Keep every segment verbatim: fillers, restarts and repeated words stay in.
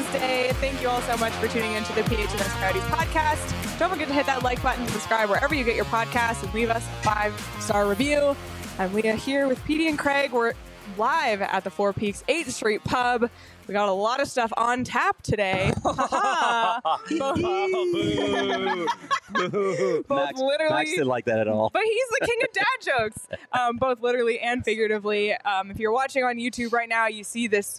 Wednesday. Thank you all so much for tuning into the P H N X Coyotes podcast. Don't forget to hit that like button and subscribe wherever you get your podcasts and leave us a five-star review. I'm Leah here with Petey and Craig. We're live at the Four Peaks eighth Street Pub. We got a lot of stuff on tap today. Both, both Max, literally, Max didn't like that at all. but he's the king of dad jokes, um, both literally and figuratively. Um, if you're watching on YouTube right now, you see this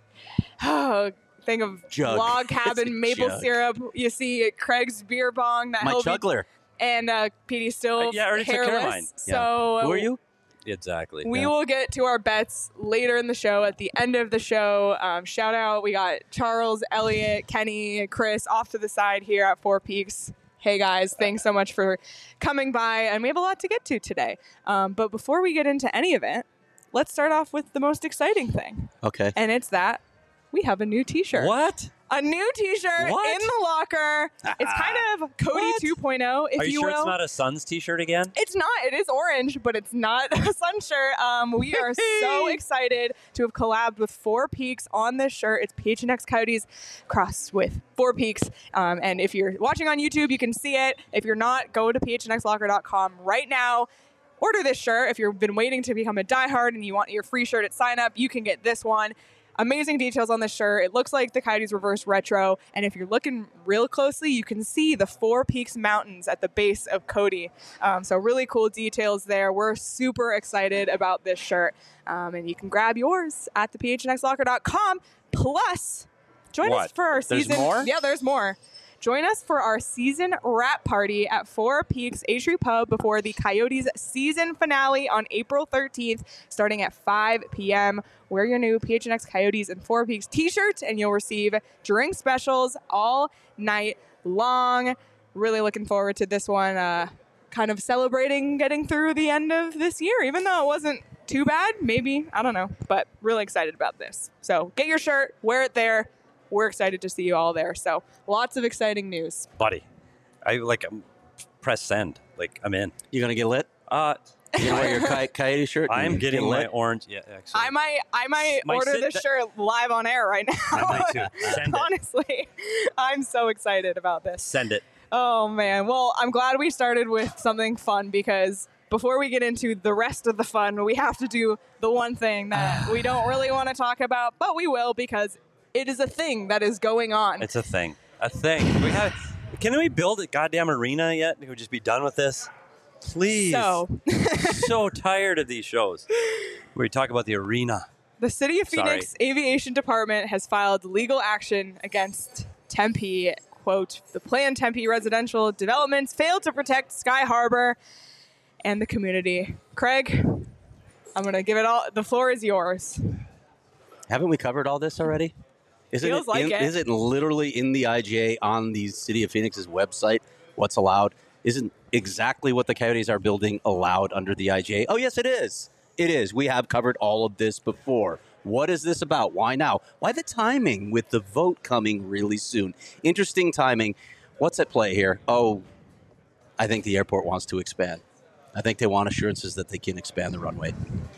oh, thing of Jug. log It's a cabin maple jug. syrup. You see Craig's beer bong that My he'll be- juggler. and uh, Petey's still Uh, yeah, I already took care of hairless. mine. Yeah. So Who are you? Exactly. we Yeah. will get to our bets later in the show. At the end of the show, um, shout out. We got Charles, Elliot, Kenny, Chris off to the side here at Four Peaks. Hey guys, thanks so much for coming by, and we have a lot to get to today. Um, but before we get into any of it, let's start off with the most exciting thing, Okay. and it's that we have a new T-shirt. What? A new T-shirt What? in the locker. It's kind of Cody What? two point oh, if Are you, you sure will. it's not a Suns t-shirt again? It's not. It is orange, but it's not a sun shirt. Um, we are so excited to have collabed with Four Peaks on this shirt. It's P H N X Coyotes crossed with Four Peaks. Um, and if you're watching on YouTube, you can see it. If you're not, go to P H N X locker dot com right now. Order this shirt. If you've been waiting to become a diehard and you want your free shirt at sign up, you can get this one. Amazing details on this shirt. It looks like the Coyotes reverse retro. And if you're looking real closely, you can see the Four Peaks Mountains at the base of Cody. Um, so really cool details there. We're super excited about this shirt. Um, and you can grab yours at the P H N X locker dot com. Plus, join us What? for our There's season. more? Yeah, there's more. Join us for our season wrap party at Four Peaks eighth Street Pub before the Coyotes season finale on April thirteenth, starting at five p.m. Wear your new P H N X Coyotes and Four Peaks t-shirts, and you'll receive drink specials all night long. Really looking forward to this one. Uh, kind of celebrating getting through the end of this year, even though it wasn't too bad. Maybe, I don't know, but really excited about this. So get your shirt, wear it there. We're excited to see you all there. So lots of exciting news. Buddy, I like um, press send. Like I'm in. You gonna get lit? Uh, You gonna wear your coy- coyote shirt? I'm and getting get my lit? orange. Yeah, actually. I might, I might Might order sit this th- shirt live on air right now. I might too. Send it. Honestly, I'm so excited about this. Send it. Oh man. Well, I'm glad we started with something fun because before we get into the rest of the fun, we have to do the one thing that we don't really want to talk about, but we will because it is a thing that is going on. It's a thing. A thing. We have. Can we build a goddamn arena yet? Can we just be done with this? Please. So, So tired of these shows where we talk about the arena. the City of Phoenix Aviation Department has filed legal action against Tempe. Quote, the planned Tempe residential developments failed to protect Sky Harbor and the community. Craig, I'm going to give it all. The floor is yours. Haven't we covered all this already? Isn't Feels it, like in, it. Is it literally in the I G A on the City of Phoenix's website? What's allowed? Isn't exactly what the Coyotes are building allowed under the I G A? Oh, yes, it is. It is. We have covered all of this before. What is this about? Why now? Why the timing with the vote coming really soon? Interesting timing. What's at play here? Oh, I think the airport wants to expand. I think they want assurances that they can expand the runway.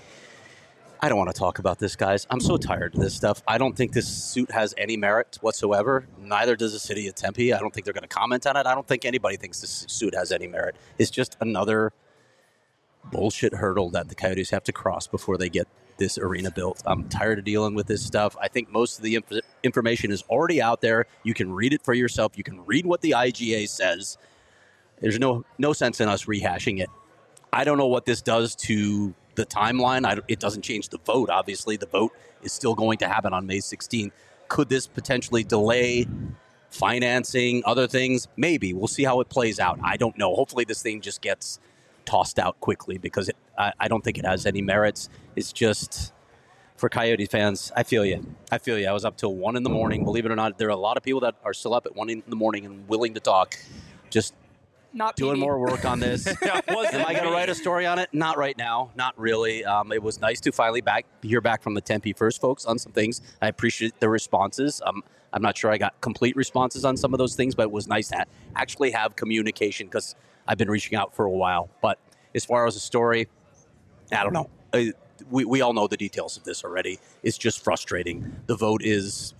I don't want to talk about this, guys. I'm so tired of this stuff. I don't think this suit has any merit whatsoever. Neither does the city of Tempe. I don't think they're going to comment on it. I don't think anybody thinks this suit has any merit. It's just another bullshit hurdle that the Coyotes have to cross before they get this arena built. I'm tired of dealing with this stuff. I think most of the inf- information is already out there. You can read it for yourself. You can read what the I G A says. There's no no sense in us rehashing it. I don't know what this does to the timeline. I, it doesn't change the vote, obviously. The vote is still going to happen on May sixteenth. Could this potentially delay financing, other things? Maybe. We'll see how it plays out. I don't know. Hopefully this thing just gets tossed out quickly because it, I, I don't think it has any merits. It's just, for Coyote fans, I feel you. I feel you. I was up till one in the morning. Believe it or not, there are a lot of people that are still up at one in the morning and willing to talk. Just Not doing P D. more work on this. That wasn't Am I going to me. write a story on it? Not right now. Not really. Um, it was nice to finally back hear back from the Tempe First folks on some things. I appreciate the responses. Um, I'm not sure I got complete responses on some of those things, but it was nice to actually have communication because I've been reaching out for a while. But as far as the story, I don't know. Uh, we, we all know the details of this already. It's just frustrating. The vote is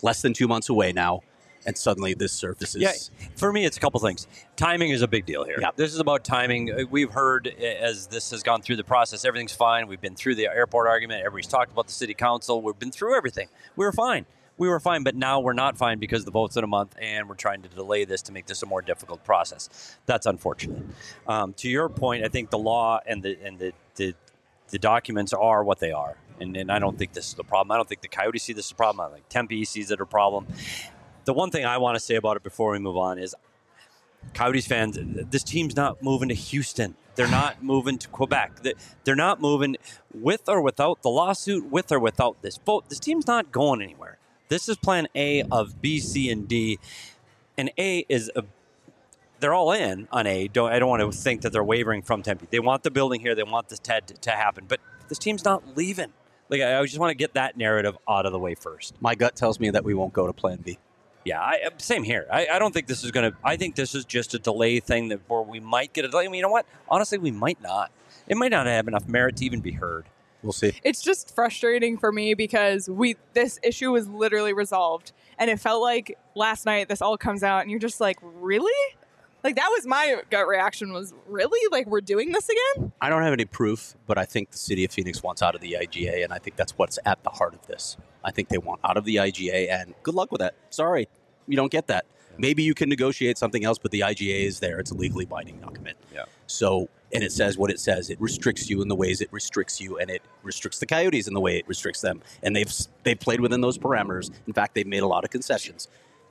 less than two months away now, and suddenly this surfaces. Yeah, for me, it's a couple things. Timing is a big deal here. Yeah. This is about timing. We've heard as this has gone through the process, everything's fine. We've been through the airport argument. Everybody's talked about the city council. We've been through everything. We were fine. We were fine, but now we're not fine because the vote's in a month, and we're trying to delay this to make this a more difficult process. That's unfortunate. Um, to your point, I think the law and the and the the, the documents are what they are, and, and I don't think this is the problem. I don't think the Coyotes see this as a problem. I don't think Tempe sees it a problem. The one thing I want to say about it before we move on is Coyotes fans, this team's not moving to Houston. They're not moving to Quebec. They're not moving with or without the lawsuit, with or without this vote. This team's not going anywhere. This is plan A of B, C, and D. And A is, a, they're all in on A. Don't, I don't want to think that they're wavering from Tempe. They want the building here. They want this to, to happen. But this team's not leaving. Like I just want to get that narrative out of the way first. My gut tells me that we won't go to plan B. Yeah, I, same here. I, I don't think this is going to – I think this is just a delay thing that where we might get a delay. I mean, you know what? Honestly, we might not. It might not have enough merit to even be heard. We'll see. It's just frustrating for me because we this issue was literally resolved. And it felt like last night this all comes out and you're just like, really? Like that was my gut reaction was, really? Like we're doing this again? I don't have any proof, but I think the city of Phoenix wants out of the I G A, and I think that's what's at the heart of this. I think they want out of the I G A, and good luck with that. Sorry, you don't get that. Maybe you can negotiate something else, but the I G A is there. It's a legally binding document. Yeah. So, and it says what it says. It restricts you in the ways it restricts you, and it restricts the Coyotes in the way it restricts them. And they've they've played within those parameters. In fact, they've made a lot of concessions.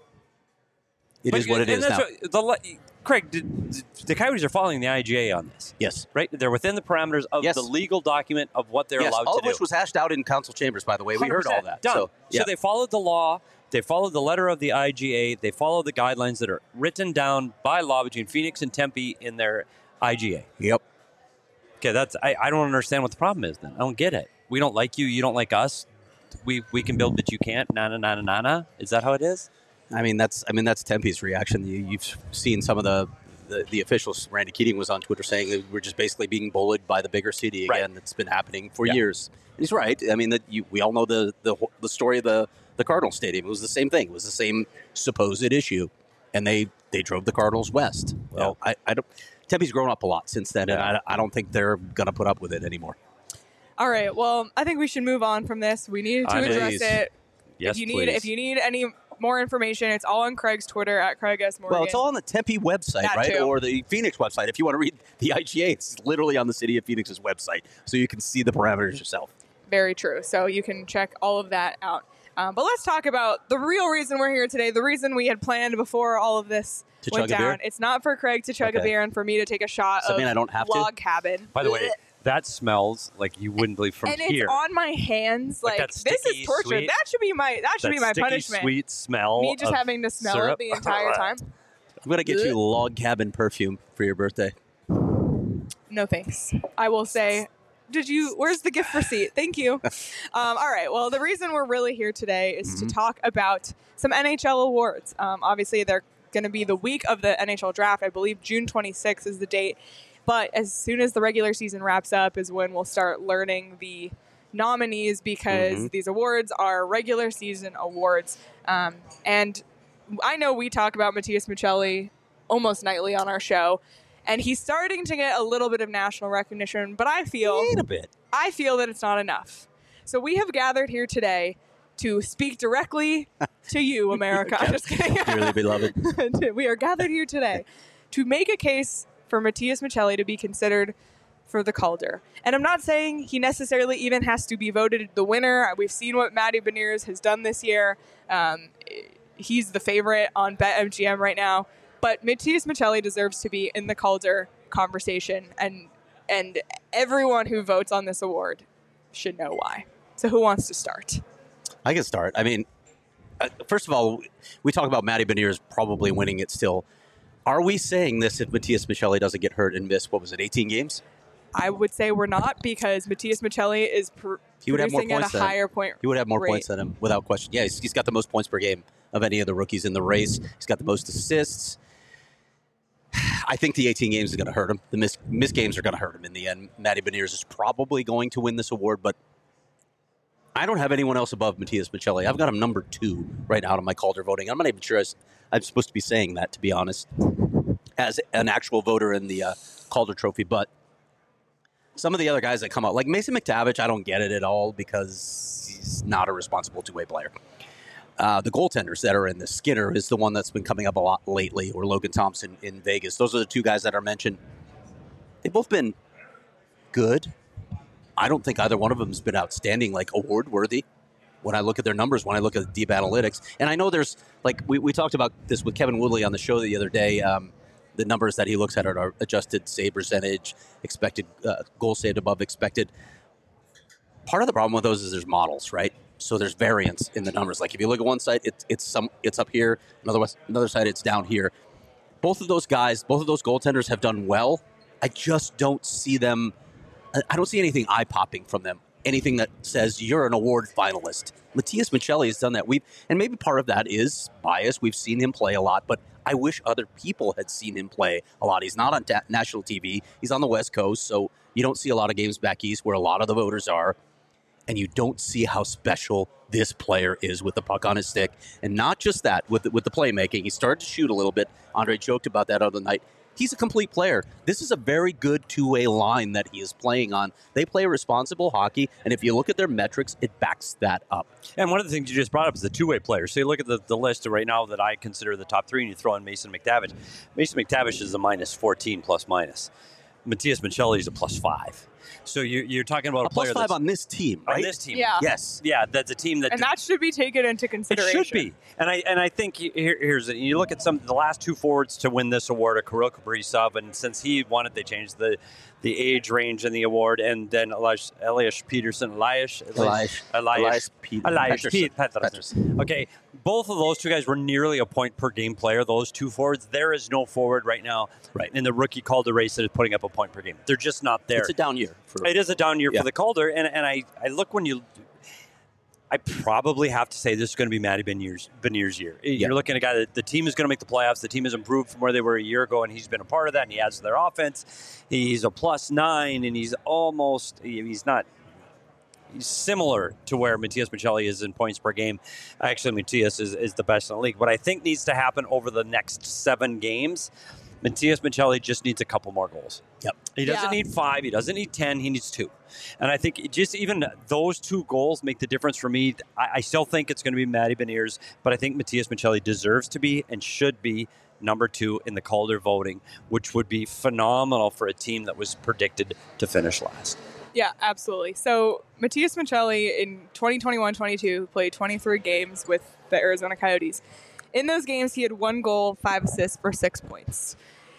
It but, is what it is now. What, the, Craig, did, the Coyotes are following the I G A on this. Yes. Right? They're within the parameters of yes. the legal document of what they're yes, allowed all to of do. which was hashed out in council chambers, by the way. We heard all that. Done. So, yeah. so they followed the law. They followed the letter of the I G A. They followed the guidelines that are written down by law between Phoenix and Tempe in their I G A. Yep. Okay, that's I, I don't understand what the problem is then. I don't get it. We don't like you. You don't like us. We we can build, but you can't. Na na na na na na. Is that how it is? I mean, that's I mean that's Tempe's reaction. You, you've seen some of the, the, the officials. Randy Keating was on Twitter saying that we're just basically being bullied by the bigger city again. Right. That's been happening for yeah. years. And he's right. I mean, that you, we all know the, the the story of the, the Cardinal Stadium. It was the same thing. It was the same supposed issue, and they, they drove the Cardinals west. Well, yeah. I, I don't. Tempe's grown up a lot since then, and I, I don't think they're going to put up with it anymore. All right. Well, I think we should move on from this. We need to I address please. it. Yes, if you please. need, if you need any more information, it's all on Craig's Twitter at Craig S. Morgan. Well, it's all on the Tempe website, That right? too. Or the Phoenix website. If you want to read the I G A, it's literally on the City of Phoenix's website, so you can see the parameters yourself. Very true. So you can check all of that out. Um, but let's talk about the real reason we're here today, the reason we had planned before all of this To went chug a down. beer? It's not for Craig to chug Okay. a beer and for me to take a shot Does that of mean I don't have to? log cabin. By the way, that smells like you wouldn't believe from and here. it's on my hands. Like Like, that this sticky, is torture. sweet- that should be my that should that be my sticky, punishment. sweet smell. Me just of having to smell syrup. it the entire time. I'm going to get you log cabin perfume for your birthday. No thanks. I will say, did you, where's the gift receipt? Thank you. Um, all right. Well, the reason we're really here today is Mm-hmm. to talk about some N H L awards. Um, obviously, they're going to be the week of the N H L draft. I believe June twenty-sixth is the date. But as soon as the regular season wraps up is when we'll start learning the nominees because Mm-hmm. these awards are regular season awards. Um, and I know we talk about Matthias Michelli almost nightly on our show. And he's starting to get a little bit of national recognition, but I feel Wait a bit. I feel that it's not enough. So we have gathered here today to speak directly to you, America. I'm just kidding. Dearly beloved. We are gathered here today to make a case for Matthias Michelli to be considered for the Calder. And I'm not saying he necessarily even has to be voted the winner. We've seen what Matty Beniers has done this year. Um, he's the favorite on BetMGM right now. But Matthias Michelli deserves to be in the Calder conversation, and and everyone who votes on this award should know why. So who wants to start? I can start. I mean, uh, first of all, we talk about Matty Beniers probably winning it still. Are we saying this if Matthias Michelli doesn't get hurt and miss, what was it, eighteen games? I would say we're not, because Matthias Michelli is pr- He would have more producing at points a than higher point He would have more rate. points than him, without question. Yeah, he's, he's got the most points per game of any of the rookies in the race. He's got the most assists. I think the eighteen games is going to hurt him. The missed, missed games are going to hurt him in the end. Matty Beniers is probably going to win this award, but I don't have anyone else above Matias Michelli. I've got him number two right now on my Calder voting. I'm not even sure I'm supposed to be saying that, to be honest, as an actual voter in the uh, Calder Trophy. But some of the other guys that come out, like Mason McTavish, I don't get it at all because he's not a responsible two-way player. Uh, the goaltenders that are in this, Skinner is the one that's been coming up a lot lately, or Logan Thompson in Vegas. Those are the two guys that are mentioned. They've both been good. I don't think either one of them has been outstanding, like award-worthy when I look at their numbers, when I look at deep analytics. And I know there's, like, we, we talked about this with Kevin Woodley on the show the other day, um, the numbers that he looks at are adjusted save percentage, expected uh, goal saved above expected. Part of the problem with those is there's models, right? So there's variance in the numbers. Like if you look at one side, it, it's some it's up here. Another another side, it's down here. Both of those guys, both of those goaltenders have done well. I just don't see them. I don't see anything eye-popping from them. Anything that says you're an award finalist. Matias Michelli has done that. We've and maybe part of that is bias. We've seen him play a lot, but I wish other people had seen him play a lot. He's not on ta- national T V. He's on the West Coast, so you don't see a lot of games back east where a lot of the voters are. And you don't see how special this player is with the puck on his stick. And not just that, with the, with the playmaking. He started to shoot a little bit. Andre joked about that other night. He's a complete player. This is a very good two-way line that he is playing on. They play responsible hockey, and if you look at their metrics, it backs that up. And one of the things you just brought up is the two-way player. So you look at the, the list right now that I consider the top three, and you throw in Mason McTavish. Mason McTavish is a minus fourteen plus minus. Matias Michelli is a plus five. So you're, you're talking about a, a plus player five that's on this team, right? On this team, Yeah. Yes. Yeah, that's a team that... And that should be taken into consideration. It should be. And I and I think here, here's it. You look at some the last two forwards to win this award, are Kirill Kaprizov, and since he won it, they changed the the age range in the award, and then Elias, Elias Peterson, Elias, Elias, Elias, Elias, Pete, Elias Pettersson. Pete Pettersson. Pettersson. Okay, both of those two guys were nearly a point per game player. Those two forwards. There is no forward right now right. in the rookie Calder race that is putting up a point per game. They're just not there. It's a down year. For, it is a down year yeah. for the Calder, and and I, I look when you. I probably have to say this is going to be Matty Beniers' Beniers' year. You're yeah. looking at a guy that the team is going to make the playoffs. The team has improved from where they were a year ago, and he's been a part of that, and he adds to their offense. He's a plus nine, and he's almost – he's not – he's similar to where Matias Michelli is in points per game. Actually, Matias is, is the best in the league. What I think needs to happen over the next seven games – Matias Michelli just needs a couple more goals. Yep. He doesn't Yeah. need five. He doesn't need ten. He needs two. And I think just even those two goals make the difference for me. I, I still think it's going to be Matty Beniers, but I think Matias Michelli deserves to be and should be number two in the Calder voting, which would be phenomenal for a team that was predicted to finish last. Yeah, absolutely. So Matias Michelli in twenty twenty-one twenty-two played twenty-three games with the Arizona Coyotes. In those games, he had one goal, five assists for six points.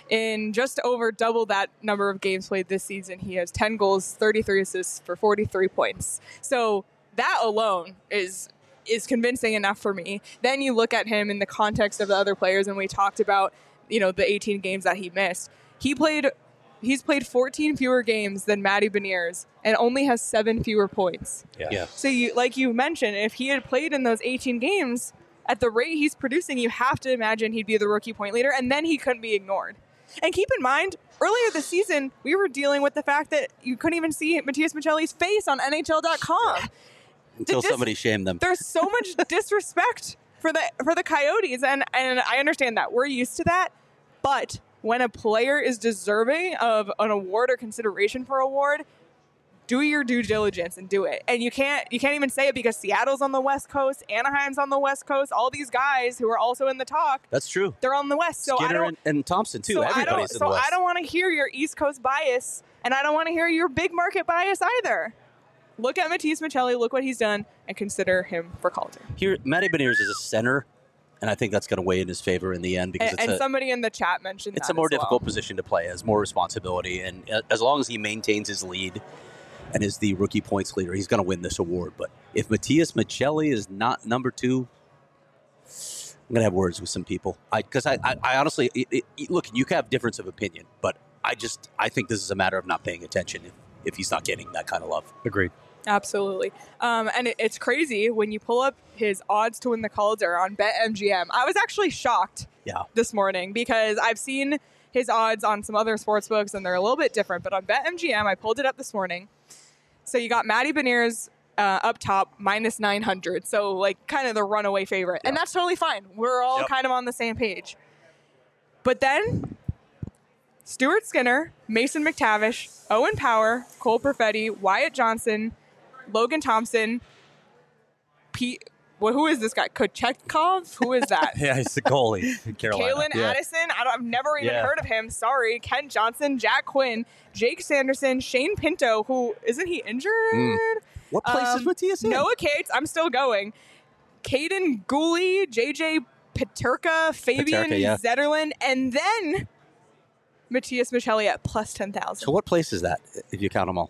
In just over double that number of games played this season, he has ten goals, thirty-three assists for forty-three points. So that alone is is convincing enough for me. Then you look at him in the context of the other players, and we talked about, you know, the eighteen games that he missed. He played, he's played fourteen fewer games than Matty Beniers and only has seven fewer points. Yeah. Yeah. So you, like you mentioned, if he had played in those eighteen games, at the rate he's producing, you have to imagine he'd be the rookie point leader, and then he couldn't be ignored. And keep in mind, earlier this season, we were dealing with the fact that you couldn't even see Matias Michelli's face on N H L dot com. Until dis- somebody shamed them. There's so much disrespect for the for the Coyotes, and, and I understand that. We're used to that. But when a player is deserving of an award or consideration for award, do your due diligence and do it. And you can't you can't even say it because Seattle's on the West Coast, Anaheim's on the West Coast. All these guys who are also in the talk, That's true. they're on the West. So I Skinner don't, and, and Thompson, too. so I don't, Everybody's in so the West. I don't want to hear your East Coast bias, and I don't want to hear your big market bias either. Look at Matias Michelli, look what he's done, and consider him for Calder. Here, Matty Beniers is a center, and I think that's going to weigh in his favor in the end because And, it's and a, somebody in the chat mentioned it's that a more as well. difficult position to play, has more responsibility, and uh, as long as he maintains his lead and is the rookie points leader, he's going to win this award. But if Matias Michelli is not number two, I'm going to have words with some people. Because I, I, I honestly, it, it, look, you can have difference of opinion, but I just, I think this is a matter of not paying attention if, if he's not getting that kind of love. Agreed. Absolutely. Um, and it, it's crazy when you pull up his odds to win the Calder on BetMGM. I was actually shocked Yeah. this morning because I've seen his odds on some other sports books and they're a little bit different. But on BetMGM, I pulled it up this morning. So you got Matty Beniers uh, up top, minus nine hundred. So, like, kind of the runaway favorite. Yeah. And that's totally fine. We're all Yep. kind of on the same page. But then, Stuart Skinner, Mason McTavish, Owen Power, Cole Perfetti, Wyatt Johnson, Logan Thompson, Pete... Well, who is this guy? Kochetkov? Who is that? Yeah, he's the goalie in Carolina. Kalen Yeah. Addison. I don't, I've never even Yeah. heard of him. Sorry. Ken Johnson, Jack Quinn, Jake Sanderson, Shane Pinto, who isn't he injured? Mm. What place is Um, Matthias in? Noah Cates. I'm still going. Caden Gooley, J J Paterka, Fabian Paterka, yeah. Zetterlund, and then Matthias Michelli at plus ten thousand. So what place is that, if you count them all?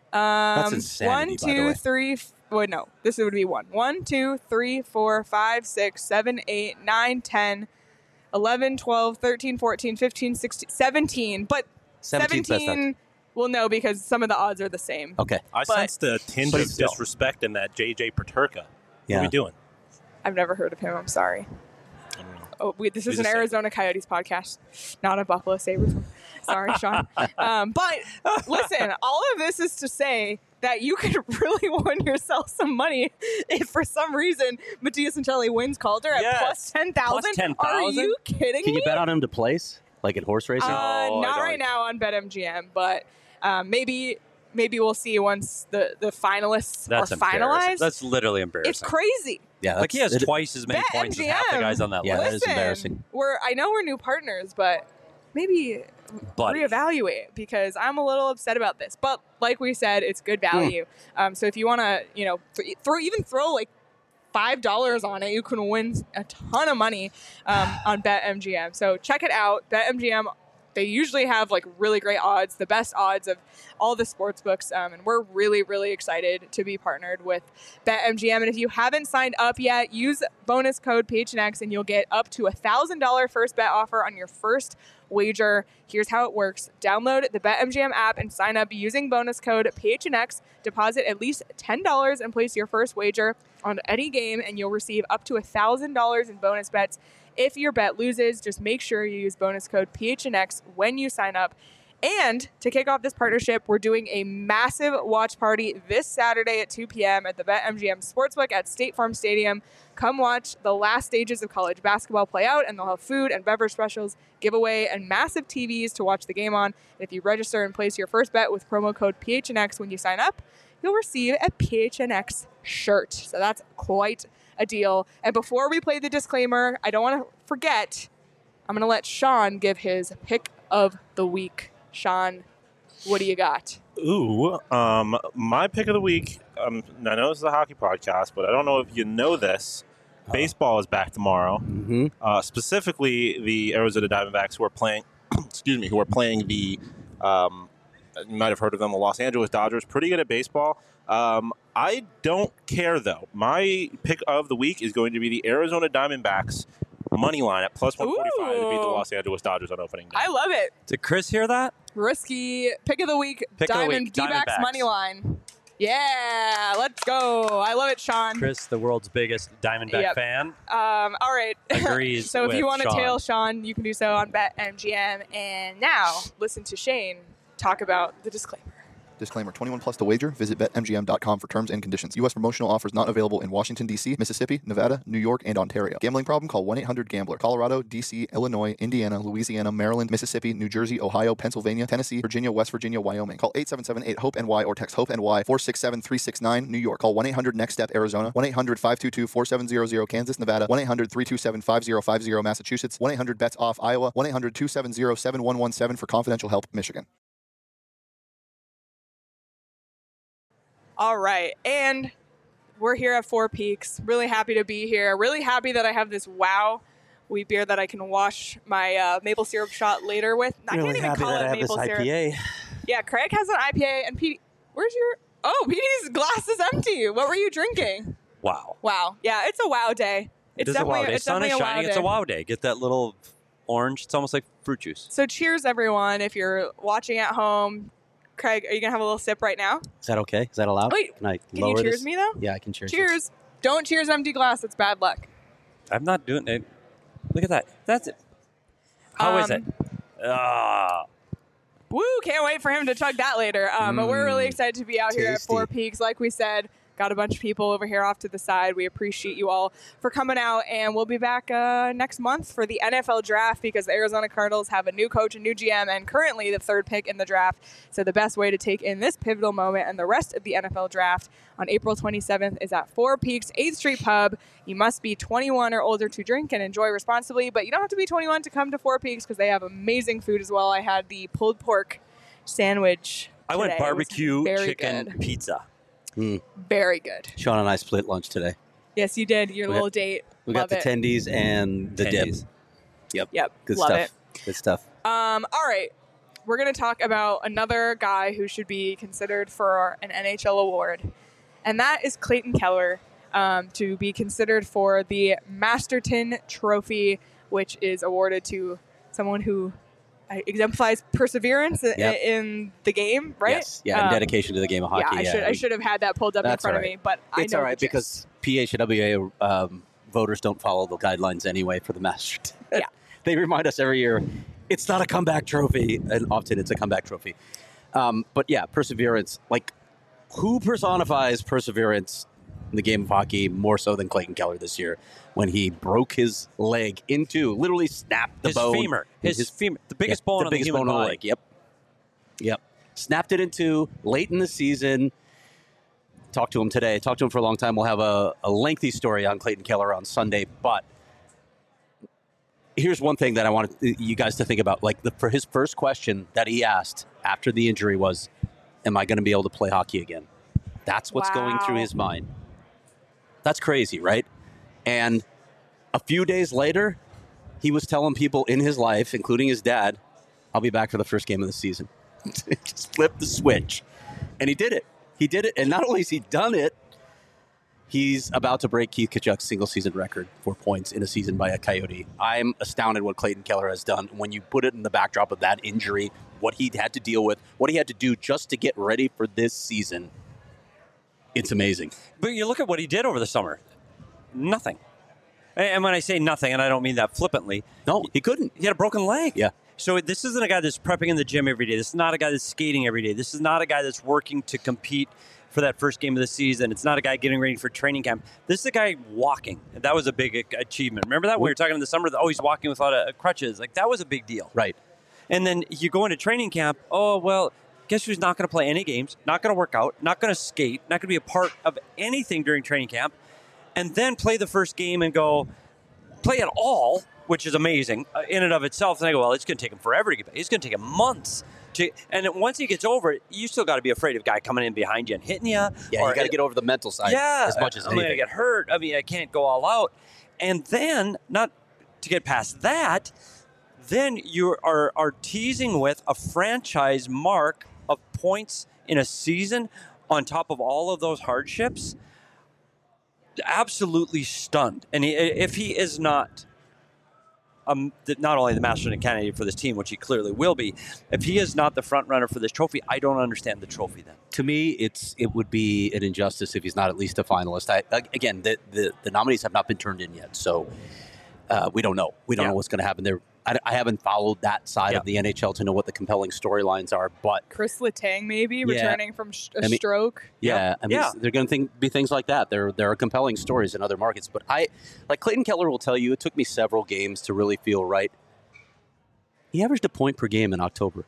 Um, insanity, one, by the two, way. three. F- wait, no. This would be one. One, two, three, four, five, six, seven, eight, nine, ten, eleven, twelve, thirteen, fourteen, fifteen, sixteen, seventeen. But seventeenth best seventeen. Well, no, because some of the odds are the same. Okay. I But- sensed a tinge But of still. disrespect in that J J Paterka. What Yeah. are we doing? I've never heard of him. I'm sorry. I don't know. Oh, wait, this He's is a an Sabre. Arizona Coyotes podcast, not a Buffalo Sabres one. Sorry, Sean. Um, but listen, all of this is to say that you could really win yourself some money if for some reason Matthias Michelli wins Calder at Yes. plus ten thousand. Plus ten Are thousand? you kidding Can me? you bet on him to place, like in horse racing? Uh, Oh, I not don't- right now on BetMGM, but um, maybe maybe we'll see once the, the finalists That's are embarrassing. finalized. That's literally embarrassing. It's crazy. yeah, Like he has it- twice as many points as half the BetMGM. guys on that Yeah, list. that is Listen, embarrassing. We're I know we're new partners, but maybe Buddy. reevaluate because I'm a little upset about this. But like we said, it's good Hmm. value. Um, so if you want to, you know, th- throw even throw like five dollars on it, you can win a ton of money um, on BetMGM. So check it out. BetMGM. They usually have like really great odds, the best odds of all the sports books. Um, and we're really, really excited to be partnered with BetMGM. And if you haven't signed up yet, use bonus code P H N X and you'll get up to a one thousand dollars first bet offer on your first wager. Here's how it works. Download the BetMGM app and sign up using bonus code P H N X. Deposit at least ten dollars and place your first wager on any game, and you'll receive up to one thousand dollars in bonus bets. If your bet loses, just make sure you use bonus code P H N X when you sign up. And to kick off this partnership, we're doing a massive watch party this Saturday at two p.m. at the BetMGM Sportsbook at State Farm Stadium. Come watch the last stages of college basketball play out, and they'll have food and beverage specials, giveaway, and massive T Vs to watch the game on. And if you register and place your first bet with promo code P H N X when you sign up, you'll receive a P H N X shirt. So that's quite a deal. And before we play the disclaimer, I don't want to forget, I'm going to let Sean give his pick of the week. Sean, what do you got? Ooh, um, my pick of the week. Um, I know this is a hockey podcast, but I don't know if you know this. Baseball is back tomorrow. Mm-hmm. Uh, specifically, the Arizona Diamondbacks, who are playing. excuse me, who are playing the. Um, you might have heard of them, the Los Angeles Dodgers. Pretty good at baseball. Um, I don't care though. My pick of the week is going to be the Arizona Diamondbacks money line at plus one forty-five to beat the Ooh. Los Angeles Dodgers on opening day. I love it. Did Chris hear that? Risky pick of the week, Pick of the Diamond week, D-backs Diamondbacks. money line. Yeah, let's go. I love it, Sean. Chris, the world's biggest Diamondback Yep. fan, Um, all right. agrees. So if with you want to Sean. tail Sean, you can do so on BetMGM. And now listen to Shane talk about the disclaimer. Disclaimer, twenty-one plus to wager. Visit bet M G M dot com for terms and conditions. U S promotional offers not available in Washington, D C, Mississippi, Nevada, New York, and Ontario. Gambling problem? Call one eight hundred gambler. Colorado, D C, Illinois, Indiana, Louisiana, Maryland, Mississippi, New Jersey, Ohio, Pennsylvania, Tennessee, Virginia, West Virginia, Wyoming. Call eight seven seven eight hope N Y or text HOPE-NY four six seven three six nine, New York. Call one eight hundred next step Arizona, one eight hundred five two two four seven zero zero, Kansas, Nevada, one eight hundred three two seven five zero five zero, Massachusetts, one eight hundred bets off Iowa, one eight hundred two seven zero seven one one seven for confidential help, Michigan. All right. And we're here at Four Peaks. Really happy to be here. Really happy that I have this wow wheat beer that I can wash my uh, maple syrup shot later with. I Really can't even happy call that it I have this maple I syrup. P A. Yeah, Craig has an I P A, and Pete, where's your? Oh, Petey's glass is empty. What were you drinking? Wow. Wow. Yeah, it's a wow day. It's It is a definitely wow day. it's Sun is definitely a shining. wow It's a day. wow day. Get that little orange. It's almost like fruit juice. So cheers, everyone. If you're watching at home, Craig, are you gonna have a little sip right now? Is that okay? Is that allowed? Wait, Can I Can lower you cheers this? me though? Yeah, I can cheers. you. Cheers. Don't cheers empty glass. It's bad luck. I'm not doing it. Look at that. That's it. How is it? Um, Ah. Woo! Can't wait for him to chug that later. Um, But we're really Mm, excited to be out here at tasty. Four Peaks. Like we said, got a bunch of people over here off to the side. We appreciate you all for coming out, and we'll be back uh, next month for the N F L draft because the Arizona Cardinals have a new coach, a new G M, and currently the third pick in the draft. So the best way to take in this pivotal moment and the rest of the N F L draft on April twenty-seventh is at Four Peaks eighth Street Pub. You must be twenty-one or older to drink and enjoy responsibly, but you don't have to be twenty-one to come to Four Peaks because they have amazing food as well. I had the pulled pork sandwich I went today. It was barbecue very chicken good. pizza. Mm. Very good. Sean and I split lunch today. Yes, you did. Your We little got- date. We Love got the it. tendies and the Tendies. dip. Yep. Yep. Good Love stuff. it. Good stuff. Um, all right. We're going to talk about another guy who should be considered for an N H L award, and that is Clayton Keller, um, to be considered for the Masterton Trophy, which is awarded to someone who uh, exemplifies perseverance i- Yep. in the game, right? Yes. Yeah. And Um, dedication to the game of hockey. Yeah, I should I we- should have had that pulled up in That's front all of right. me, but I It's know all the right gist. because P H W A um, voters don't follow the guidelines anyway for the Masters. Yeah. They remind us every year it's not a comeback trophy, and often it's a comeback trophy. Um, but yeah, perseverance. Like, who personifies perseverance in the game of hockey more so than Clayton Keller this year when he broke his leg into, literally snapped the His bone. femur. His, femur. The biggest Yeah, bone the on biggest the human bone on the body. leg. Yep. Yep. Snapped it in two late in the season. Talked to him today. Talked to him for a long time. We'll have a, a lengthy story on Clayton Keller on Sunday. But here's one thing that I wanted you guys to think about. Like, the, for his first question that he asked after the injury was, am I going to be able to play hockey again? That's what's going through Wow. his mind. That's crazy, right? And a few days later, he was telling people in his life, including his dad, I'll be back for the first game of the season. Just flip the switch. And he did it. He did it. And not only has he done it, he's about to break Keith Tkachuk's single-season record for points in a season by a Coyote. I'm astounded what Clayton Keller has done. When you put it in the backdrop of that injury, what he had to deal with, what he had to do just to get ready for this season, it's amazing. But you look at what he did over the summer. Nothing. And when I say nothing, and I don't mean that flippantly, No, he couldn't. he had a broken leg. Yeah. So this isn't a guy that's prepping in the gym every day. This is not a guy that's skating every day. This is not a guy that's working to compete for that first game of the season. It's not a guy getting ready for training camp. This is a guy walking. And that was a big a- achievement. Remember that? We were talking in the summer, that, oh, he's walking without a, a crutches. Like, that was a big deal. Right. And then you go into training camp, oh, well, guess who's not going to play any games, not going to work out, not going to skate, not going to be a part of anything during training camp, and then play the first game and go play it all, which is amazing uh, in and of itself. And I go, well, it's going to take him forever to get back. It's going to take him months. To, and then once he gets over it, you still got to be afraid of a guy coming in behind you and hitting you. Yeah, you got to get over the mental side yeah, as much as I'm going to anything. get hurt. I mean, I can't go all out. And then, not to get past that, then you are, are teasing with a franchise mark of points in a season on top of all of those hardships. Absolutely stunned. And he, if he is not um, the, not only the Masterton candidate for this team, which he clearly will be, if he is not the front runner for this trophy, I don't understand the trophy then. To me, it's it would be an injustice if he's not at least a finalist. I, again, the, the, the nominees have not been turned in yet, so uh, we don't know. We don't Yeah. know what's going to happen there. I, I haven't followed that side Yeah. of the N H L to know what the compelling storylines are, but Chris Letang maybe Yeah. returning from sh- a I mean- stroke. yeah, I mean, Yeah. they're going to think, be things like that. There, there are compelling stories in other markets, but I, like Clayton Keller will tell you, it took me several games to really feel right. He averaged a point per game in October.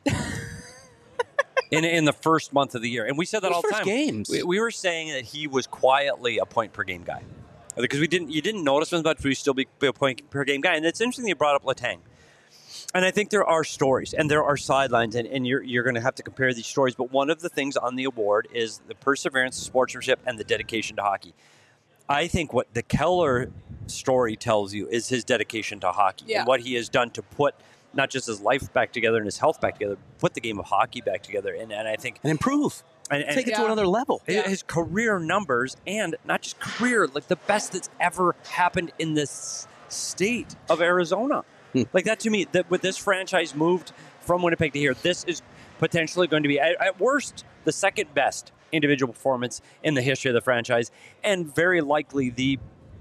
in in the first month of the year. And we said that Those all the first time. games. We, we were saying that he was quietly a point per game guy. Because we didn't you didn't notice him, but we still be, be a point per game guy. And it's interesting you brought up Letang. And I think there are stories and there are sidelines, and, and you're you're going to have to compare these stories. But one of the things on the award is the perseverance, sportsmanship, and the dedication to hockey. I think what the Keller story tells you is his dedication to hockey Yeah. and what he has done to put not just his life back together and his health back together, put the game of hockey back together. And, and I think and improve. and, and Take it to Yeah. another level. his, Yeah. his career numbers, and not just career, like the best that's ever happened in this state of Arizona. Hmm. Like that to me, that with this franchise moved from Winnipeg to here, this is potentially going to be, at, at worst, the second best individual performance in the history of the franchise, and very likely the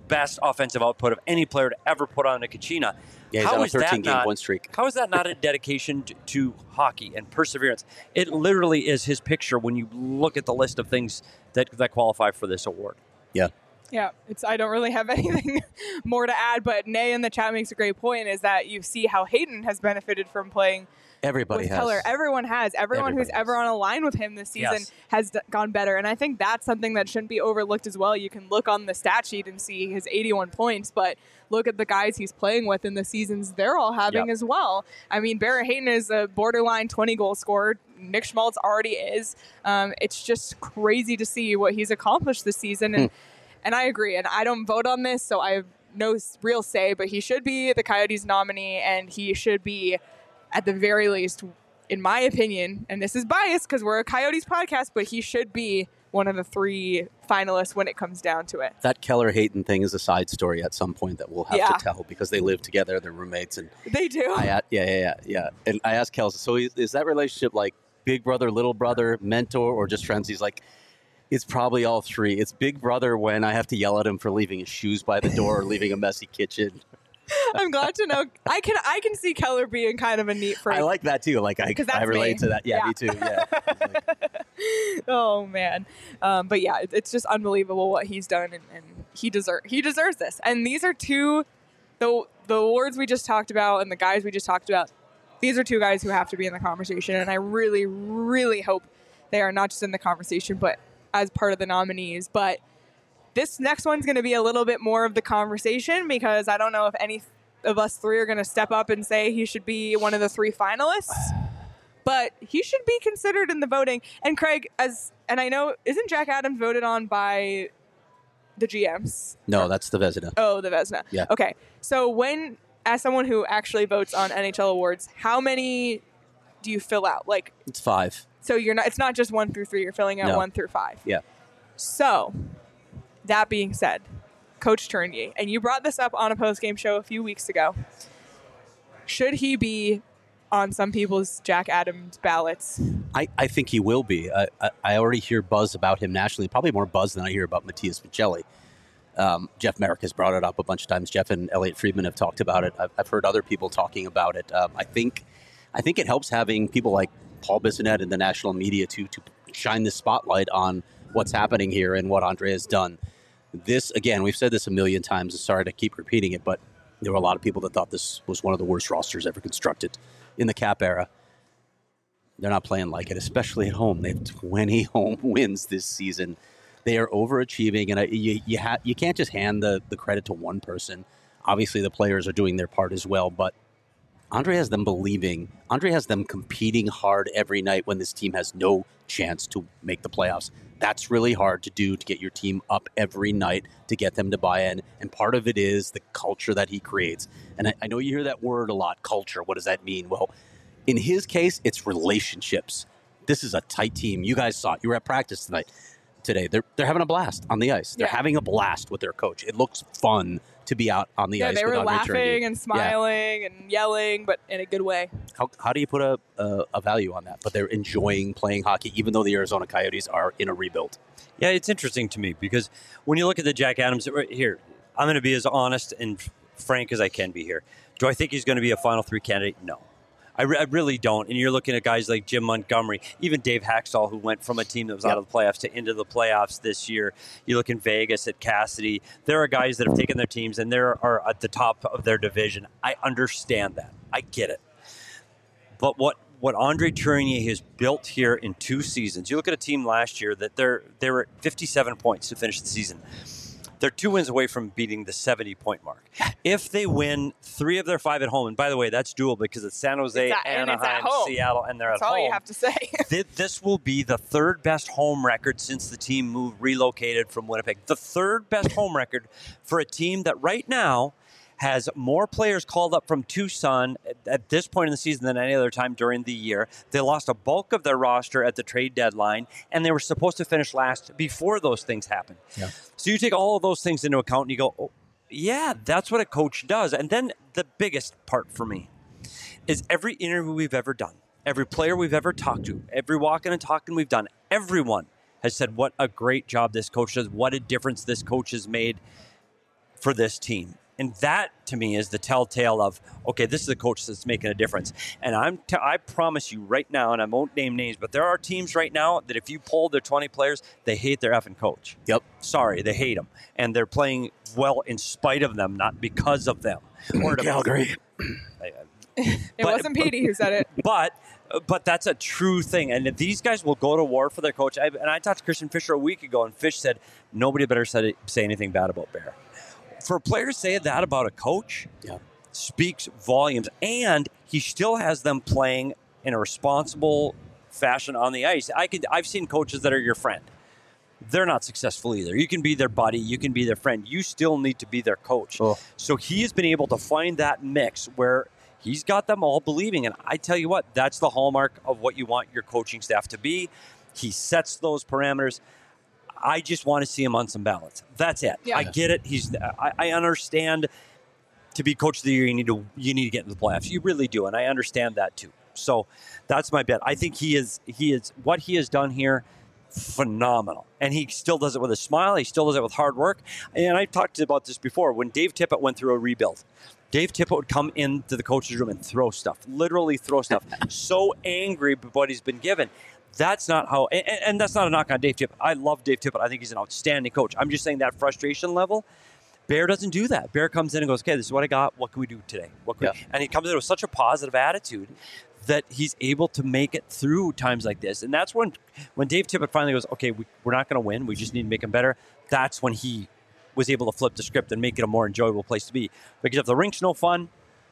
best offensive output of any player to ever put on a Kachina. Yeah, he's How on a is that thirteen game not- win streak. How is that not a dedication to, to hockey and perseverance? It literally is his picture when you look at the list of things that, that qualify for this award. Yeah. Yeah, it's. I don't really have anything more to add, but Nay in the chat makes a great point, is that you see how Hayden has benefited from playing Everybody with has. Keller. Everyone has. Everyone Everybody who's ever has. on a line with him this season Yes. has d- gone better. And I think that's something that shouldn't be overlooked as well. You can look on the stat sheet and see his eighty-one points, but look at the guys he's playing with in the seasons they're all having Yep. as well. I mean, Barrett Hayton is a borderline twenty goal scorer. Nick Schmaltz already is. Um, it's just crazy to see what he's accomplished this season. And, and I agree. And I don't vote on this, so I have no s- real say, but he should be the Coyotes nominee, and he should be, at the very least, in my opinion, and this is biased because we're a Coyotes podcast, but he should be one of the three finalists when it comes down to it. That Keller Hayton thing is a side story at some point that we'll have Yeah. to tell because they live together, they're roommates, and They do. I a- yeah yeah yeah yeah. And I asked Kelsey, so is, is that relationship like big brother, little brother, mentor, or just friends? He's like, it's probably all three. It's big brother when I have to yell at him for leaving his shoes by the door or leaving a messy kitchen. I'm glad to know. I can I can see Keller being kind of a neat freak. I like that too. Like I, 'Cause that's I relate me. to that. Yeah, Yeah. me too. Yeah. Oh man, um, but yeah, it, it's just unbelievable what he's done, and, and he deserve he deserves this. And these are two, the the awards we just talked about, and the guys we just talked about. These are two guys who have to be in the conversation, and I really, really hope they are not just in the conversation, but as part of the nominees. But this next one's going to be a little bit more of the conversation because I don't know if any of us three are going to step up and say he should be one of the three finalists. But he should be considered in the voting. And Craig, as and I know, isn't Jack Adams voted on by the G Ms? No, that's the Vezina. Oh, the Vezina. Yeah. Okay. So when, as someone who actually votes on N H L awards, how many do you fill out? Like, It's five. so you're not. It's not just one through three. You're filling out No. one through five. Yeah. So, that being said, Coach Tournier, and you brought this up on a post-game show a few weeks ago. Should he be on some people's Jack Adams ballots? I, I think he will be. I, I, I already hear buzz about him nationally, probably more buzz than I hear about Matthias Michelli. Um, Jeff Merrick has brought it up a bunch of times. Jeff and Elliot Friedman have talked about it. I've, I've heard other people talking about it. Um, I think I think it helps having people like Paul Bissonnette in the national media to to shine the spotlight on what's happening here and what Andre has done. This, again, we've said this a million times. Sorry to keep repeating it, but there were a lot of people that thought this was one of the worst rosters ever constructed in the Cap era. They're not playing like it, especially at home. They have twenty home wins this season. They are overachieving, and I, you you, ha- you can't just hand the, the credit to one person. Obviously, the players are doing their part as well, but Andre has them believing. Andre has them competing hard every night when this team has no chance to make the playoffs. That's really hard to do, to get your team up every night, to get them to buy in. And part of it is the culture that he creates. And I, I know you hear that word a lot, culture. What does that mean? Well, in his case, it's relationships. This is a tight team. You guys saw it. You were at practice tonight. Today, they're they're having a blast on the ice. They're Yeah. having a blast with their coach. It looks fun to be out on the Yeah, ice. they with were Andre laughing Tournier. and Yeah. smiling and yelling, but in a good way. How, how do you put a, a a value on that? But they're enjoying playing hockey, even though the Arizona Coyotes are in a rebuild. Yeah, it's interesting to me because when you look at the Jack Adams, right here, I'm going to be as honest and frank as I can be here. Do I think he's going to be a Final Three candidate? No. I, re- I really don't. And you're looking at guys like Jim Montgomery, even Dave Haxtell, who went from a team that was Yep. out of the playoffs to into the playoffs this year. You look in Vegas at Cassidy. There are guys that have taken their teams and they are at the top of their division. I understand that. I get it. But what what Andre Tournier has built here in two seasons, you look at a team last year that they're they were at fifty-seven points to finish the season. They're two wins away from beating the seventy-point mark. If they win three of their five at home, and by the way, that's doable because it's San Jose, It's at- and it's at Anaheim, home. Seattle, and they're That's at all home. you have to say. Th- This will be the third best home record since the team moved relocated from Winnipeg. The third best home record for a team that right now has more players called up from Tucson at, at this point in the season than any other time during the year. They lost a bulk of their roster at the trade deadline, and they were supposed to finish last before those things happened. Yeah. So you take all of those things into account and you go, oh, yeah, that's what a coach does. And then the biggest part for me is every interview we've ever done, every player we've ever talked to, every walking and talking we've done, everyone has said what a great job this coach does, what a difference this coach has made for this team. And that, to me, is the telltale of, okay, this is a coach that's making a difference. And I'm t- I promise you right now, and I won't name names, but there are teams right now that if you poll their twenty players, they hate their effing coach. Yep. Sorry, they hate them. And they're playing well in spite of them, not because of them. Or to- Calgary. It But- wasn't Petey who said it. But but that's a true thing. And if these guys will go to war for their coach. I, and I talked to Christian Fisher a week ago, and Fish said, nobody better say, say anything bad about Bear. For a player to say that about a coach Yeah. speaks volumes. And he still has them playing in a responsible fashion on the ice. I could, I've seen coaches that are your friend. They're not successful either. You can be their buddy. You can be their friend. You still need to be their coach. Oh. So he has been able to find that mix where he's got them all believing. And I tell you what, that's the hallmark of what you want your coaching staff to be. He sets those parameters. I just want to see him on some balance. That's it. Yeah. I get it. He's. I, I understand. To be coach of the year, you need to you need to get into the playoffs. You really do, and I understand that too. So that's my bet. I think he is. He is what he has done here. Phenomenal, and he still does it with a smile. He still does it with hard work. And I talked about this before. When Dave Tippett went through a rebuild, Dave Tippett would come into the coach's room and throw stuff, literally throw stuff. So angry with what he's been given. That's not how, and, and that's not a knock on Dave Tippett. I love Dave Tippett. I think he's an outstanding coach. I'm just saying that frustration level, Bear doesn't do that. Bear comes in and goes, okay, this is what I got. What can we do today? What can Yeah. we? And he comes in with such a positive attitude that he's able to make it through times like this. And that's when, when Dave Tippett finally goes, okay, we, we're not going to win. We just need to make him better. That's when he was able to flip the script and make it a more enjoyable place to be. Because if the rink's no fun,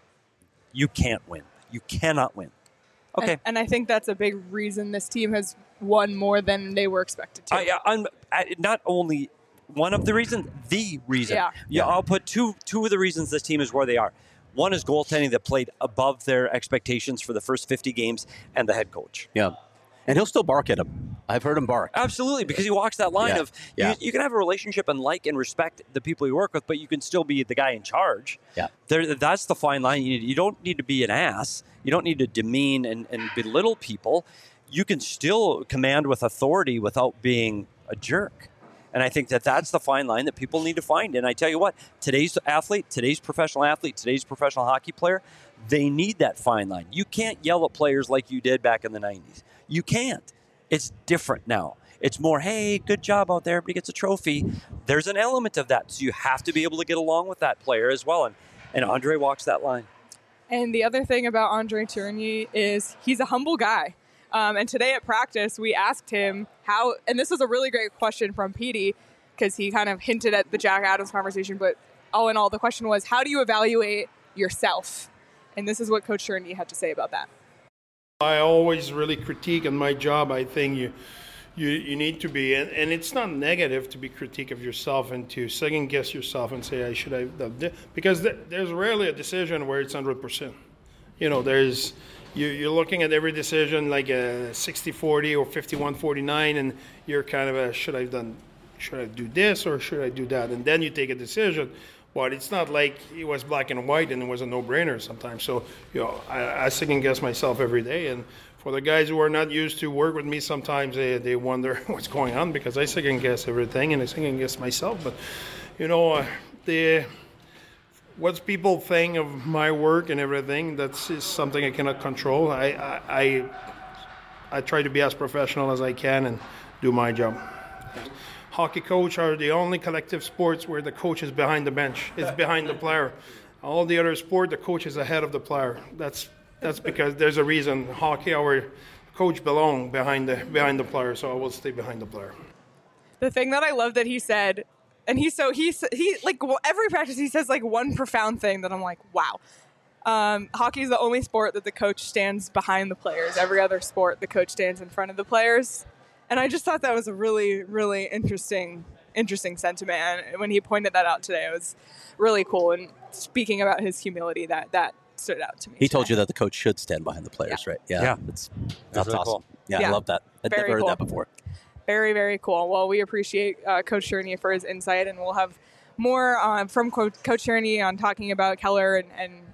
you can't win. You cannot win. Okay. And, and I think that's a big reason this team has won more than they were expected to. I, I'm I, not only one of the reasons, the reason. Yeah. yeah. I'll put two two of the reasons this team is where they are. One is goaltending that played above their expectations for the first fifty games, and the head coach. Yeah. And he'll still bark at him. I've heard him bark. Absolutely, because he walks that line Yeah. of Yeah. You, you can have a relationship and like and respect the people you work with, but you can still be the guy in charge. Yeah. There, that's the fine line. You, need, you don't need to be an ass. You don't need to demean and, and belittle people. You can still command with authority without being a jerk. And I think that that's the fine line that people need to find. And I tell you what, today's athlete, today's professional athlete, today's professional hockey player, they need that fine line. You can't yell at players like you did back in the nineties. You can't. It's different now. It's more, hey, good job out there. Everybody gets a trophy. There's an element of that. So you have to be able to get along with that player as well. And, and Andre walks that line. And the other thing about Andre Tourigny is he's a humble guy. Um, and today at practice, we asked him how, and this was a really great question from Petey, because he kind of hinted at the Jack Adams conversation, but all in all, the question was, how do you evaluate yourself? And this is what Coach Tourigny had to say about that. I always really critique on my job. I think you you, you need to be, and, and it's not negative to be critique of yourself and to second guess yourself and say, I should have done this. Because th- there's rarely a decision where it's one hundred percent. You know, there's, you, you're looking at every decision like a sixty forty or fifty-one forty-nine, and you're kind of a, should I have done, should I do this or should I do that? And then you take a decision. But it's not like it was black and white and it was a no-brainer sometimes. So, you know, I, I second guess myself every day. And for the guys who are not used to work with me, sometimes they, they wonder what's going on because I second guess everything and I second guess myself. But, you know, uh, the what people think of my work and everything, that's is something I cannot control. I, I, I, I try to be as professional as I can and do my job. Hockey coach are the only collective sports where the coach is behind the bench. It's behind the player. All the other sport, the coach is ahead of the player. That's that's because there's a reason. Hockey, our coach belong behind the behind the player, so I will stay behind the player. The thing that I love that he said, and he's so he's he like well, every practice he says like one profound thing that I'm like, wow. Um, hockey is the only sport that the coach stands behind the players. Every other sport, the coach stands in front of the players. And I just thought that was a really, really interesting, interesting sentiment. And when he pointed that out today, it was really cool. And speaking about his humility, that that stood out to me. He today. told you that the coach should stand behind the players, Yeah. right? Yeah. Yeah. That's, that's really awesome. cool. Yeah, Yeah. I love that. I'd Very never heard cool. that before. Very, very cool. Well, we appreciate uh, Coach Tourigny for his insight, and we'll have more uh, from Co- Coach Tourigny on talking about Keller and, and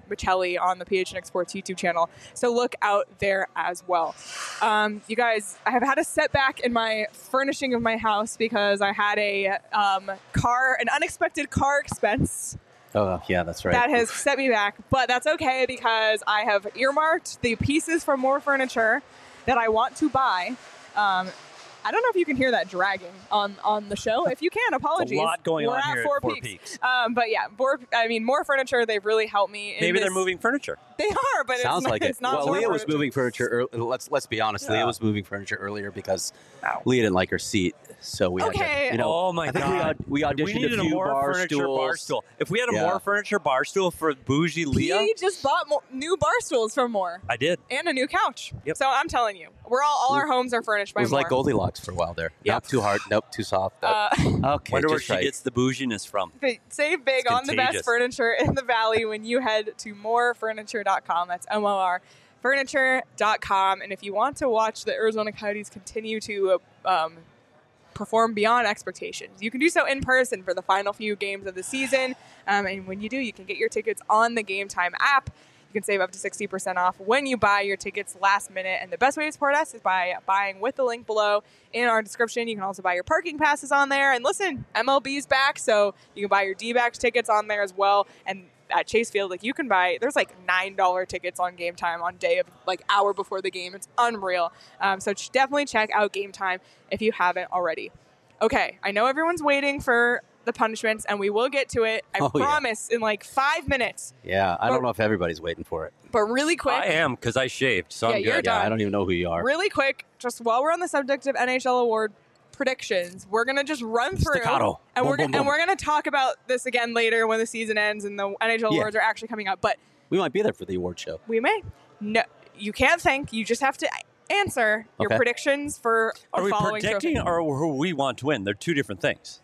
Michelli on the P H N X Sports YouTube channel. So look out there as well. Um, you guys, I have had a setback in my furnishing of my house because I had a um, car, an unexpected car expense. Oh, yeah, that's right. That has set me back, but that's okay because I have earmarked the pieces for more furniture that I want to buy. Um, I don't know if you can hear that dragging on, on the show. If you can, apologies. There's a lot going We're on at here Four at Four Peaks. Peaks. Um, but yeah, more, I mean, more furniture. They've really helped me. In Maybe this. they're moving furniture. They are, but Sounds it's not, like it's it. not Well, more Leah was furniture. moving furniture. Early, let's let's be honest. Yeah. Leah was moving furniture earlier because Ow. Leah didn't like her seat, so we Okay. had to, you know. Oh my I think God. we, aud- we We auditioned needed a a few more bar furniture stools. bar stool. If we had a Yeah. more furniture bar stool for bougie Leah, He just bought more, new bar stools from More I did. and a new couch. Yep. So I'm telling you, we're all all our homes are furnished It by was More. like Goldilocks for a while there. Yep. Nope, too hard. Nope, too soft. Nope. Uh, okay, Wonder where just she right. gets the bouginess from. Save big It's on the best contagious. furniture in the valley when you head to more furniture dot com. That's M O R furniture dot com. And if you want to watch the Arizona Coyotes continue to um, perform beyond expectations, you can do so in person for the final few games of the season. Um, and when you do, you can get your tickets on the Game Time app. You can save up to sixty percent off when you buy your tickets last minute. And the best way to support us is by buying with the link below in our description. You can also buy your parking passes on there. And listen, M L B's back, so you can buy your D-backs tickets on there as well. And at Chase Field, like you can buy, there's like nine dollar tickets on Game Time on day of like hour before the game. It's unreal. Um, so ch- definitely check out Game Time if you haven't already. Okay, I know everyone's waiting for the punishments, and we will get to it. I Oh, yeah. promise in like five minutes. Yeah, I But- don't know if everybody's waiting for it. But really quick, I am because I shaved, so Yeah, I'm you're good. done. Yeah, I don't even know who you are. really quick, just while we're on the subject of N H L award predictions, we're gonna just run through, Staccato. and Boom, we're boom, gonna, boom. and we're gonna talk about this again later when the season ends and the N H L Yeah. awards are actually coming up. But We might be there for the award show. we may. No, you can't think. You just have to answer your Okay. predictions for Are the we following predicting trophy. or who we want to win? They're two different things.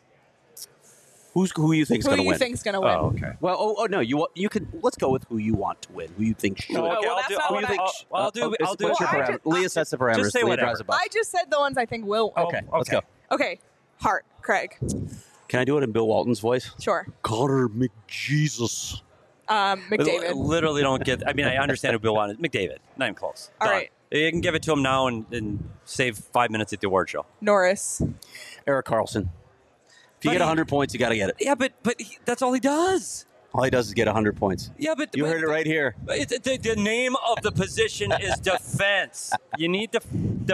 Who's who you think's Who going to you win? think's gonna win? Oh, okay. Well, oh, oh no, you wa- you could let's go with who you want to win. Who you think should. Oh, okay, well, I'll that's do. not I'll, what I- I'll, I'll do. Uh, oh, I'll do. what's your Well, I parameter? just- Leah sets the parameters. Just say Leah whatever. drives the bus. I just said the ones I think will win. Okay, let's go. Okay. Hart, Craig, Can I do it in Bill Walton's voice? sure. Connor McJesus. Um, I McDavid. literally don't get. I mean, I understand who Bill wanted. McDavid. Not even close. All Done. right. You can give it to him now and, and save five minutes at the award show. Norris. Eric Carlson. If you But get he- one hundred points, you got to get it. Yeah, but but he, that's all he does. All he does is get one hundred points. Yeah, but You but, heard it right here. but It, the, the name of the position is defense. You need to f-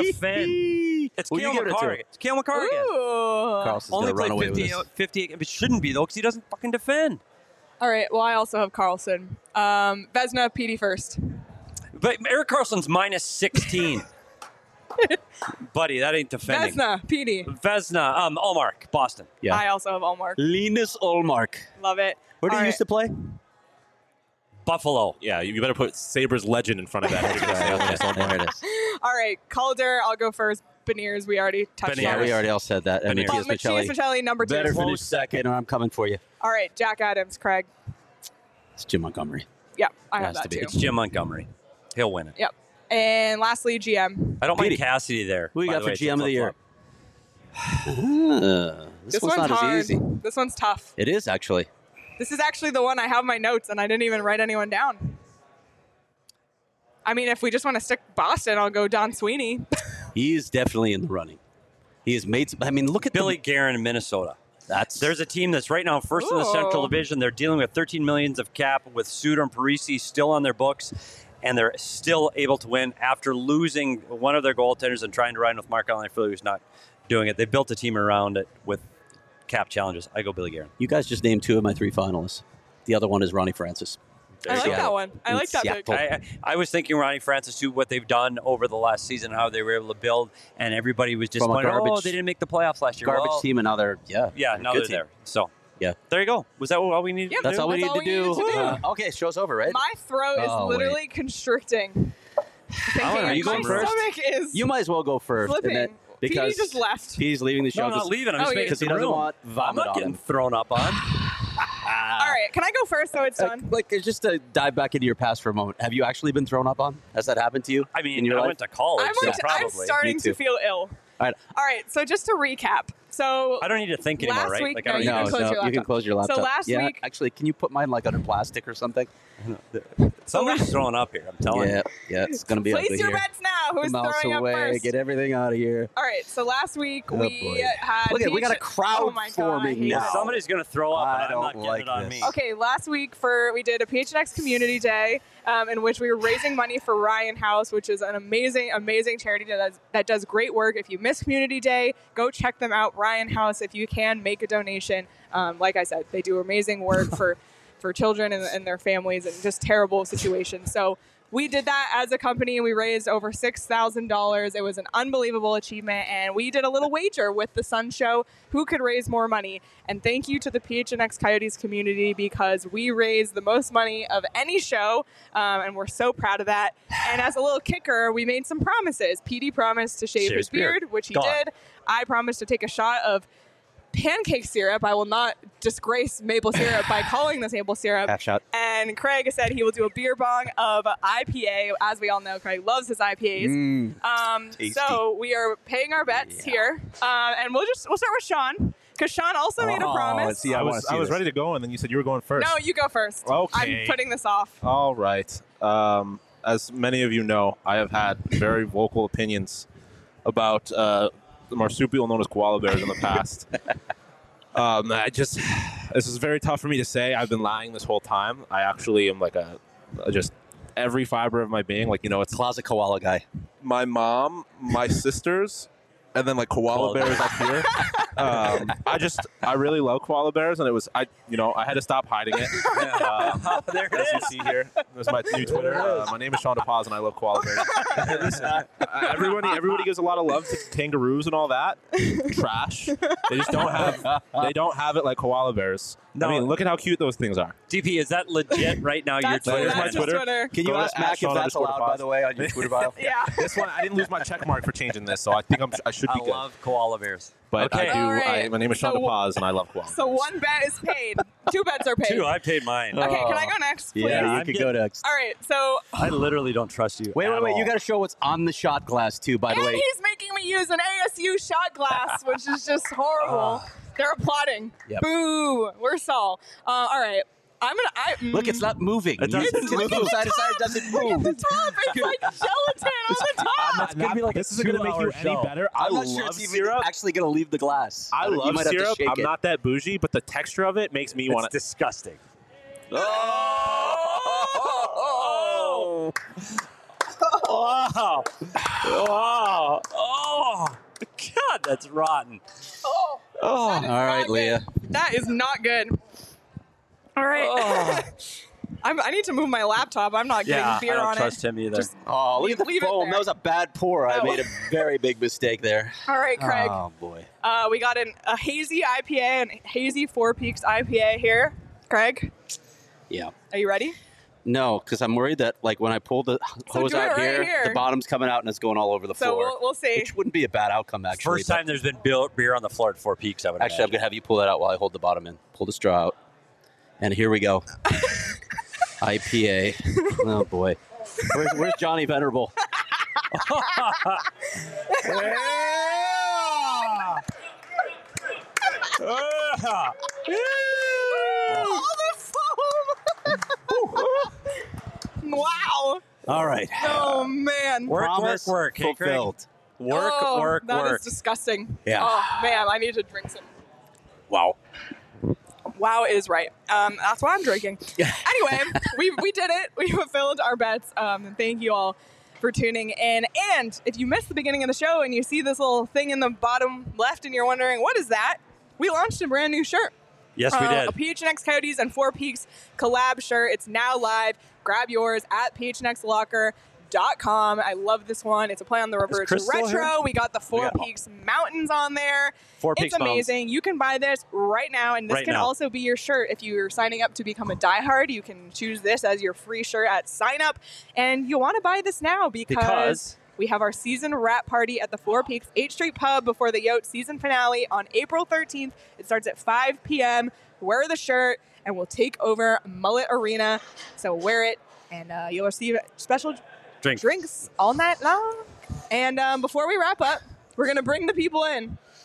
defend. It's Who you Cale giving it to? McCarrigan. It's Cale McCarrigan. Ooh. Carlson's Only going to run away played with fifty, this. fifty. It shouldn't be though, because he doesn't fucking defend. All right. Well, I also have Carlson. Um, Vesna, Petey first. But Eric Carlson's minus sixteen. Buddy, that ain't defending. Vesna, Petey. Vesna, um, Allmark, Boston. Yeah. I also have Allmark. Linus Olmark. Love it. Where did All he right. used to play? Buffalo. Yeah, you better put Sabres legend in front of that. if you're gonna say Linus Ullmark. There it is. All right. Calder, I'll go first. Beniers, we already touched Beniers. Yeah, on. we already all said that. And Beniers. Matthias But Matthias Michelli. Michelli, number two. Better finish Close second, or I'm coming for you. All right. Jack Adams, Craig. It's Jim Montgomery. Yeah, I Has have to that be. too. It's Jim Montgomery. He'll win it. Yep. And lastly, G M. I don't Petey. mind Cassidy there. Who you by got the for way. It's G M a of the year? flip-flop. Uh, this, This one's, one's not hard. as easy. This one's tough. It is actually. This is actually the one I have in my notes, and I didn't even write anyone down. I mean, if we just want to stick Boston, I'll go Don Sweeney. He's definitely in the running. He has made. Some, I mean, look at Billy The, Guerin in Minnesota. that's There's a team that's right now first in the Central Ooh. Division. They're dealing with thirteen millions of cap with Suter and Parisi still on their books, and they're still able to win after losing one of their goaltenders and trying to ride with Marc-Andre Fleury, who's not doing it. They built a team around it with cap challenges. I go Billy Guerin. You guys just named two of my three finalists. The other one is Ronnie Francis. I like you go. that one. I In like that pick. Seattle. I, I I was thinking Ronnie Francis too, what they've done over the last season, how they were able to build, and everybody was From a disappointed. Oh, garbage- they didn't make the playoffs last year. Garbage Well, team, and now they're yeah. Yeah, they're a now good they're team. there. So Yeah. there you go. Was that all we needed? Yep. to That's do? all we That's need all to we do. needed to do. Uh, okay, show's over, right? My throat is Oh, wait. literally constricting. Thinking, are you going my first? stomach is You might as well go first. flipping. and then- because Petey just left. He's leaving the show No, I'm not leaving. I'm Oh, just yeah. making because he some doesn't room. want I'm vomit not on getting him. thrown up on. All right, can I go first so it's Uh, done? like, it's just to dive back into your past for a moment. Have you actually been thrown up on? Has that happened to you? I in mean, your I life? went to college, I'm, so like, I'm probably. starting Me to too. feel ill. All right. All right, so just to recap, So I don't need to think anymore, last right? week- Like, no, I don't you need can to- close your you can laptop. close your So laptop. last yeah, week- actually, can you put mine like under plastic or something? Somebody's throwing up here. I'm telling Yeah, you. yeah, it's gonna be place ugly your here. bets now. Who's Mouse throwing away, up first? get everything out of here. All right. So last week Oh, we boy. had. Look at- we got a Peach- crowd oh my God, I forming hate now. it. Somebody's going to throw up, I and I'm don't not getting like it on this. me. Okay, last week for we did a P H N X Community Day, um, in which we were raising money for Ryan House, which is an amazing, amazing charity that does, that does great work. If you miss Community Day, go check them out. Ryan House, if you can, make a donation. Um, like I said, they do amazing work for for children and, and their families in just terrible situations. So we did that as a company, and we raised over six thousand dollars. It was an unbelievable achievement, and we did a little wager with the Sun Show who could raise more money. And thank you to the P H N X Coyotes community, because we raised the most money of any show, um, and we're so proud of that. And as a little kicker, we made some promises. P D promised to shave Shave his his beard. beard, which he Gone. did. I promised to take a shot of pancake syrup. I will not disgrace maple syrup by calling this maple syrup. Half shot. And Craig said he will do a beer bong of I P A. As we all know, Craig loves his I P As. Mm. Um, Tasty. so we are paying our bets Yeah. here, uh, and we'll just we'll start with Sean, because Sean also made a Oh, promise. see, I I wanna was see I was this. ready to go, and then you said you were going first. No, you go first. Okay. I'm putting this off. All right. Um, as many of you know, I have had very vocal opinions about uh, the marsupial known as koala bears in the past. um, I just, this is very tough for me to say. I've been lying this whole time. I actually am like a, a just every fiber of my being. Like, you know, it's Closet koala guy. my mom, my sisters, and then like koala Koala bears up here. Um, I just, I really love koala bears, and it was, I, you know, I had to stop hiding it. Um, There it as you is. see here, there's my new Twitter. Uh, my name is Sean DePaz, and I love koala bears. And listen, uh, everybody, everybody gives a lot of love to kangaroos and all that. Trash. They just don't have, they don't have it like koala bears. No. I mean, look at how cute those things are. D P, is that legit right now? Your That's, Twitter? There's my that's his Twitter. Twitter. Can you Go to ask at Mac if Sean that's underscore allowed, by DePaz. the way, on your Twitter bio? Yeah. This one, I didn't lose my check mark for changing this, so I think I'm, I should be I good. love koala bears. But okay. I do. All right. I, my name is Sean So- DePaz, and I love koala. So one bet is paid. Two bets are paid. Two, I paid mine. Okay, can I go next, please? Yeah, you I'm could getting- go next. All right. So I literally don't trust you. Wait, at wait, wait. You all. got to show what's on the shot glass, too, by the and way. he's making me use an A S U shot glass, which is just horrible. They're applauding. Yep. Boo. We're Saul. Uh, all right. I'm gonna. I, mm, Look, it's not moving. It doesn't You- move. you move side to side, it doesn't move. the top. It's like gelatin on the top. It's gonna be like this a isn't going to make you two-hour any show. better. I I'm not love sure it's even syrup. actually going to leave the glass. I You love might have to syrup. shake I'm it. not that bougie, but the texture of it makes me It's want to. disgusting. Oh! Wow. Wow. Oh. God, that's rotten. Oh, Oh, all right, not Leah. good. That is not good. All right. Oh. I'm, I need to move my laptop. I'm not getting Yeah, I beer don't on trust it. him either. Just- Oh, look at the Leave it foam. there. That was a bad pour. I Oh. made a very big mistake there. All right, Craig. Oh, boy. Uh, we got an, a hazy I P A and hazy Four Peaks I P A here. Craig, Yeah. are you ready? No, because I'm worried that, like, when I pull the So hose do it out right here, here. the bottom's coming out and it's going all over the So floor. we'll, we'll see. Which wouldn't be a bad outcome, actually. First but- time there's been beer beer on the floor at Four Peaks, I would Actually, I'm imagine. going to have you pull that out while I hold the bottom in. Pull the straw out. And here we go. I P A. Oh, boy. Where's, where's Johnny Venerable? All the foam! Wow. All right. Oh, man. Work, Promise work, work. Hey, Craig. fulfilled. Work, oh, work, that work. is disgusting. Yeah. Oh, man, I need to drink some. Wow. Wow is right. Um, that's why I'm drinking. Anyway, we we did it. We fulfilled our bets. Um, and thank you all for tuning in. And if you missed the beginning of the show and you see this little thing in the bottom left and you're wondering, what is that? We launched a brand new shirt. Yes, we Uh, did. A P H N X Coyotes and Four Peaks collab shirt. It's now live. Grab yours at p h n x locker dot com. I love this one. It's a play on the river. It's Crystal retro. here? We got the Four got- Peaks Mountains on there. Four It's Peaks Mountains. amazing. You can buy this right now, and this Right can now. also be your shirt. If you're signing up to become a diehard, you can choose this as your free shirt at sign up. And you want to buy this now because, Because- we have our season wrap party at the Four Peaks eighth Street Pub before the Yote season finale on April thirteenth. It starts at five p.m. Wear the shirt, and we'll take over Mullet Arena. So wear it, and uh, you'll receive special Drink. drinks all night long. And um, before we wrap up, we're going to bring the people in.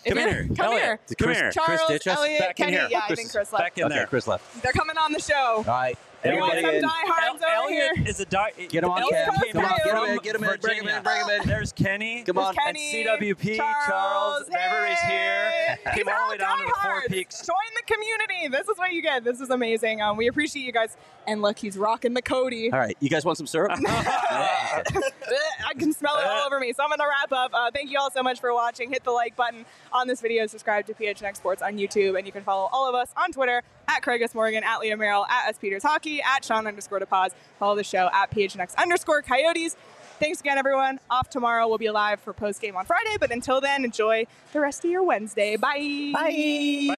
If Come you're- here. Come Elliot. here. Come Chris- here. Charles, Chris ditch us? Elliot, Back in Kenny. here. Yeah, I Chris think is Chris left. back in Okay, there. Chris left. They're coming on the show. All right. We got Everybody some in. diehards over Elliot here. is a di- Get him on Elliot cam. came Come on, in get him from in, get him in, bring him in, Virginia. bring him in. There's Kenny. Come on. There's And Kenny, C W P, Charles, everybody's here. These Came are all the way down to the Four diehards. Peaks. Join the community. This is what you get. This is amazing. Um, we appreciate you guys. And look, he's rocking the Cody. All right. You guys want some syrup? I can smell it all over me. So I'm going to wrap up. Uh, thank you all so much for watching. Hit the like button on this video. Subscribe to P H N X Sports on YouTube. And you can follow all of us on Twitter at Craig S. Morgan, at Leah Merrill, at S. Peters Hockey, at Sean underscore DePaz. Follow the show at P H N X underscore Coyotes. Thanks again, everyone. Off tomorrow. We'll be live for post game on Friday. But until then, enjoy the rest of your Wednesday. Bye. Bye.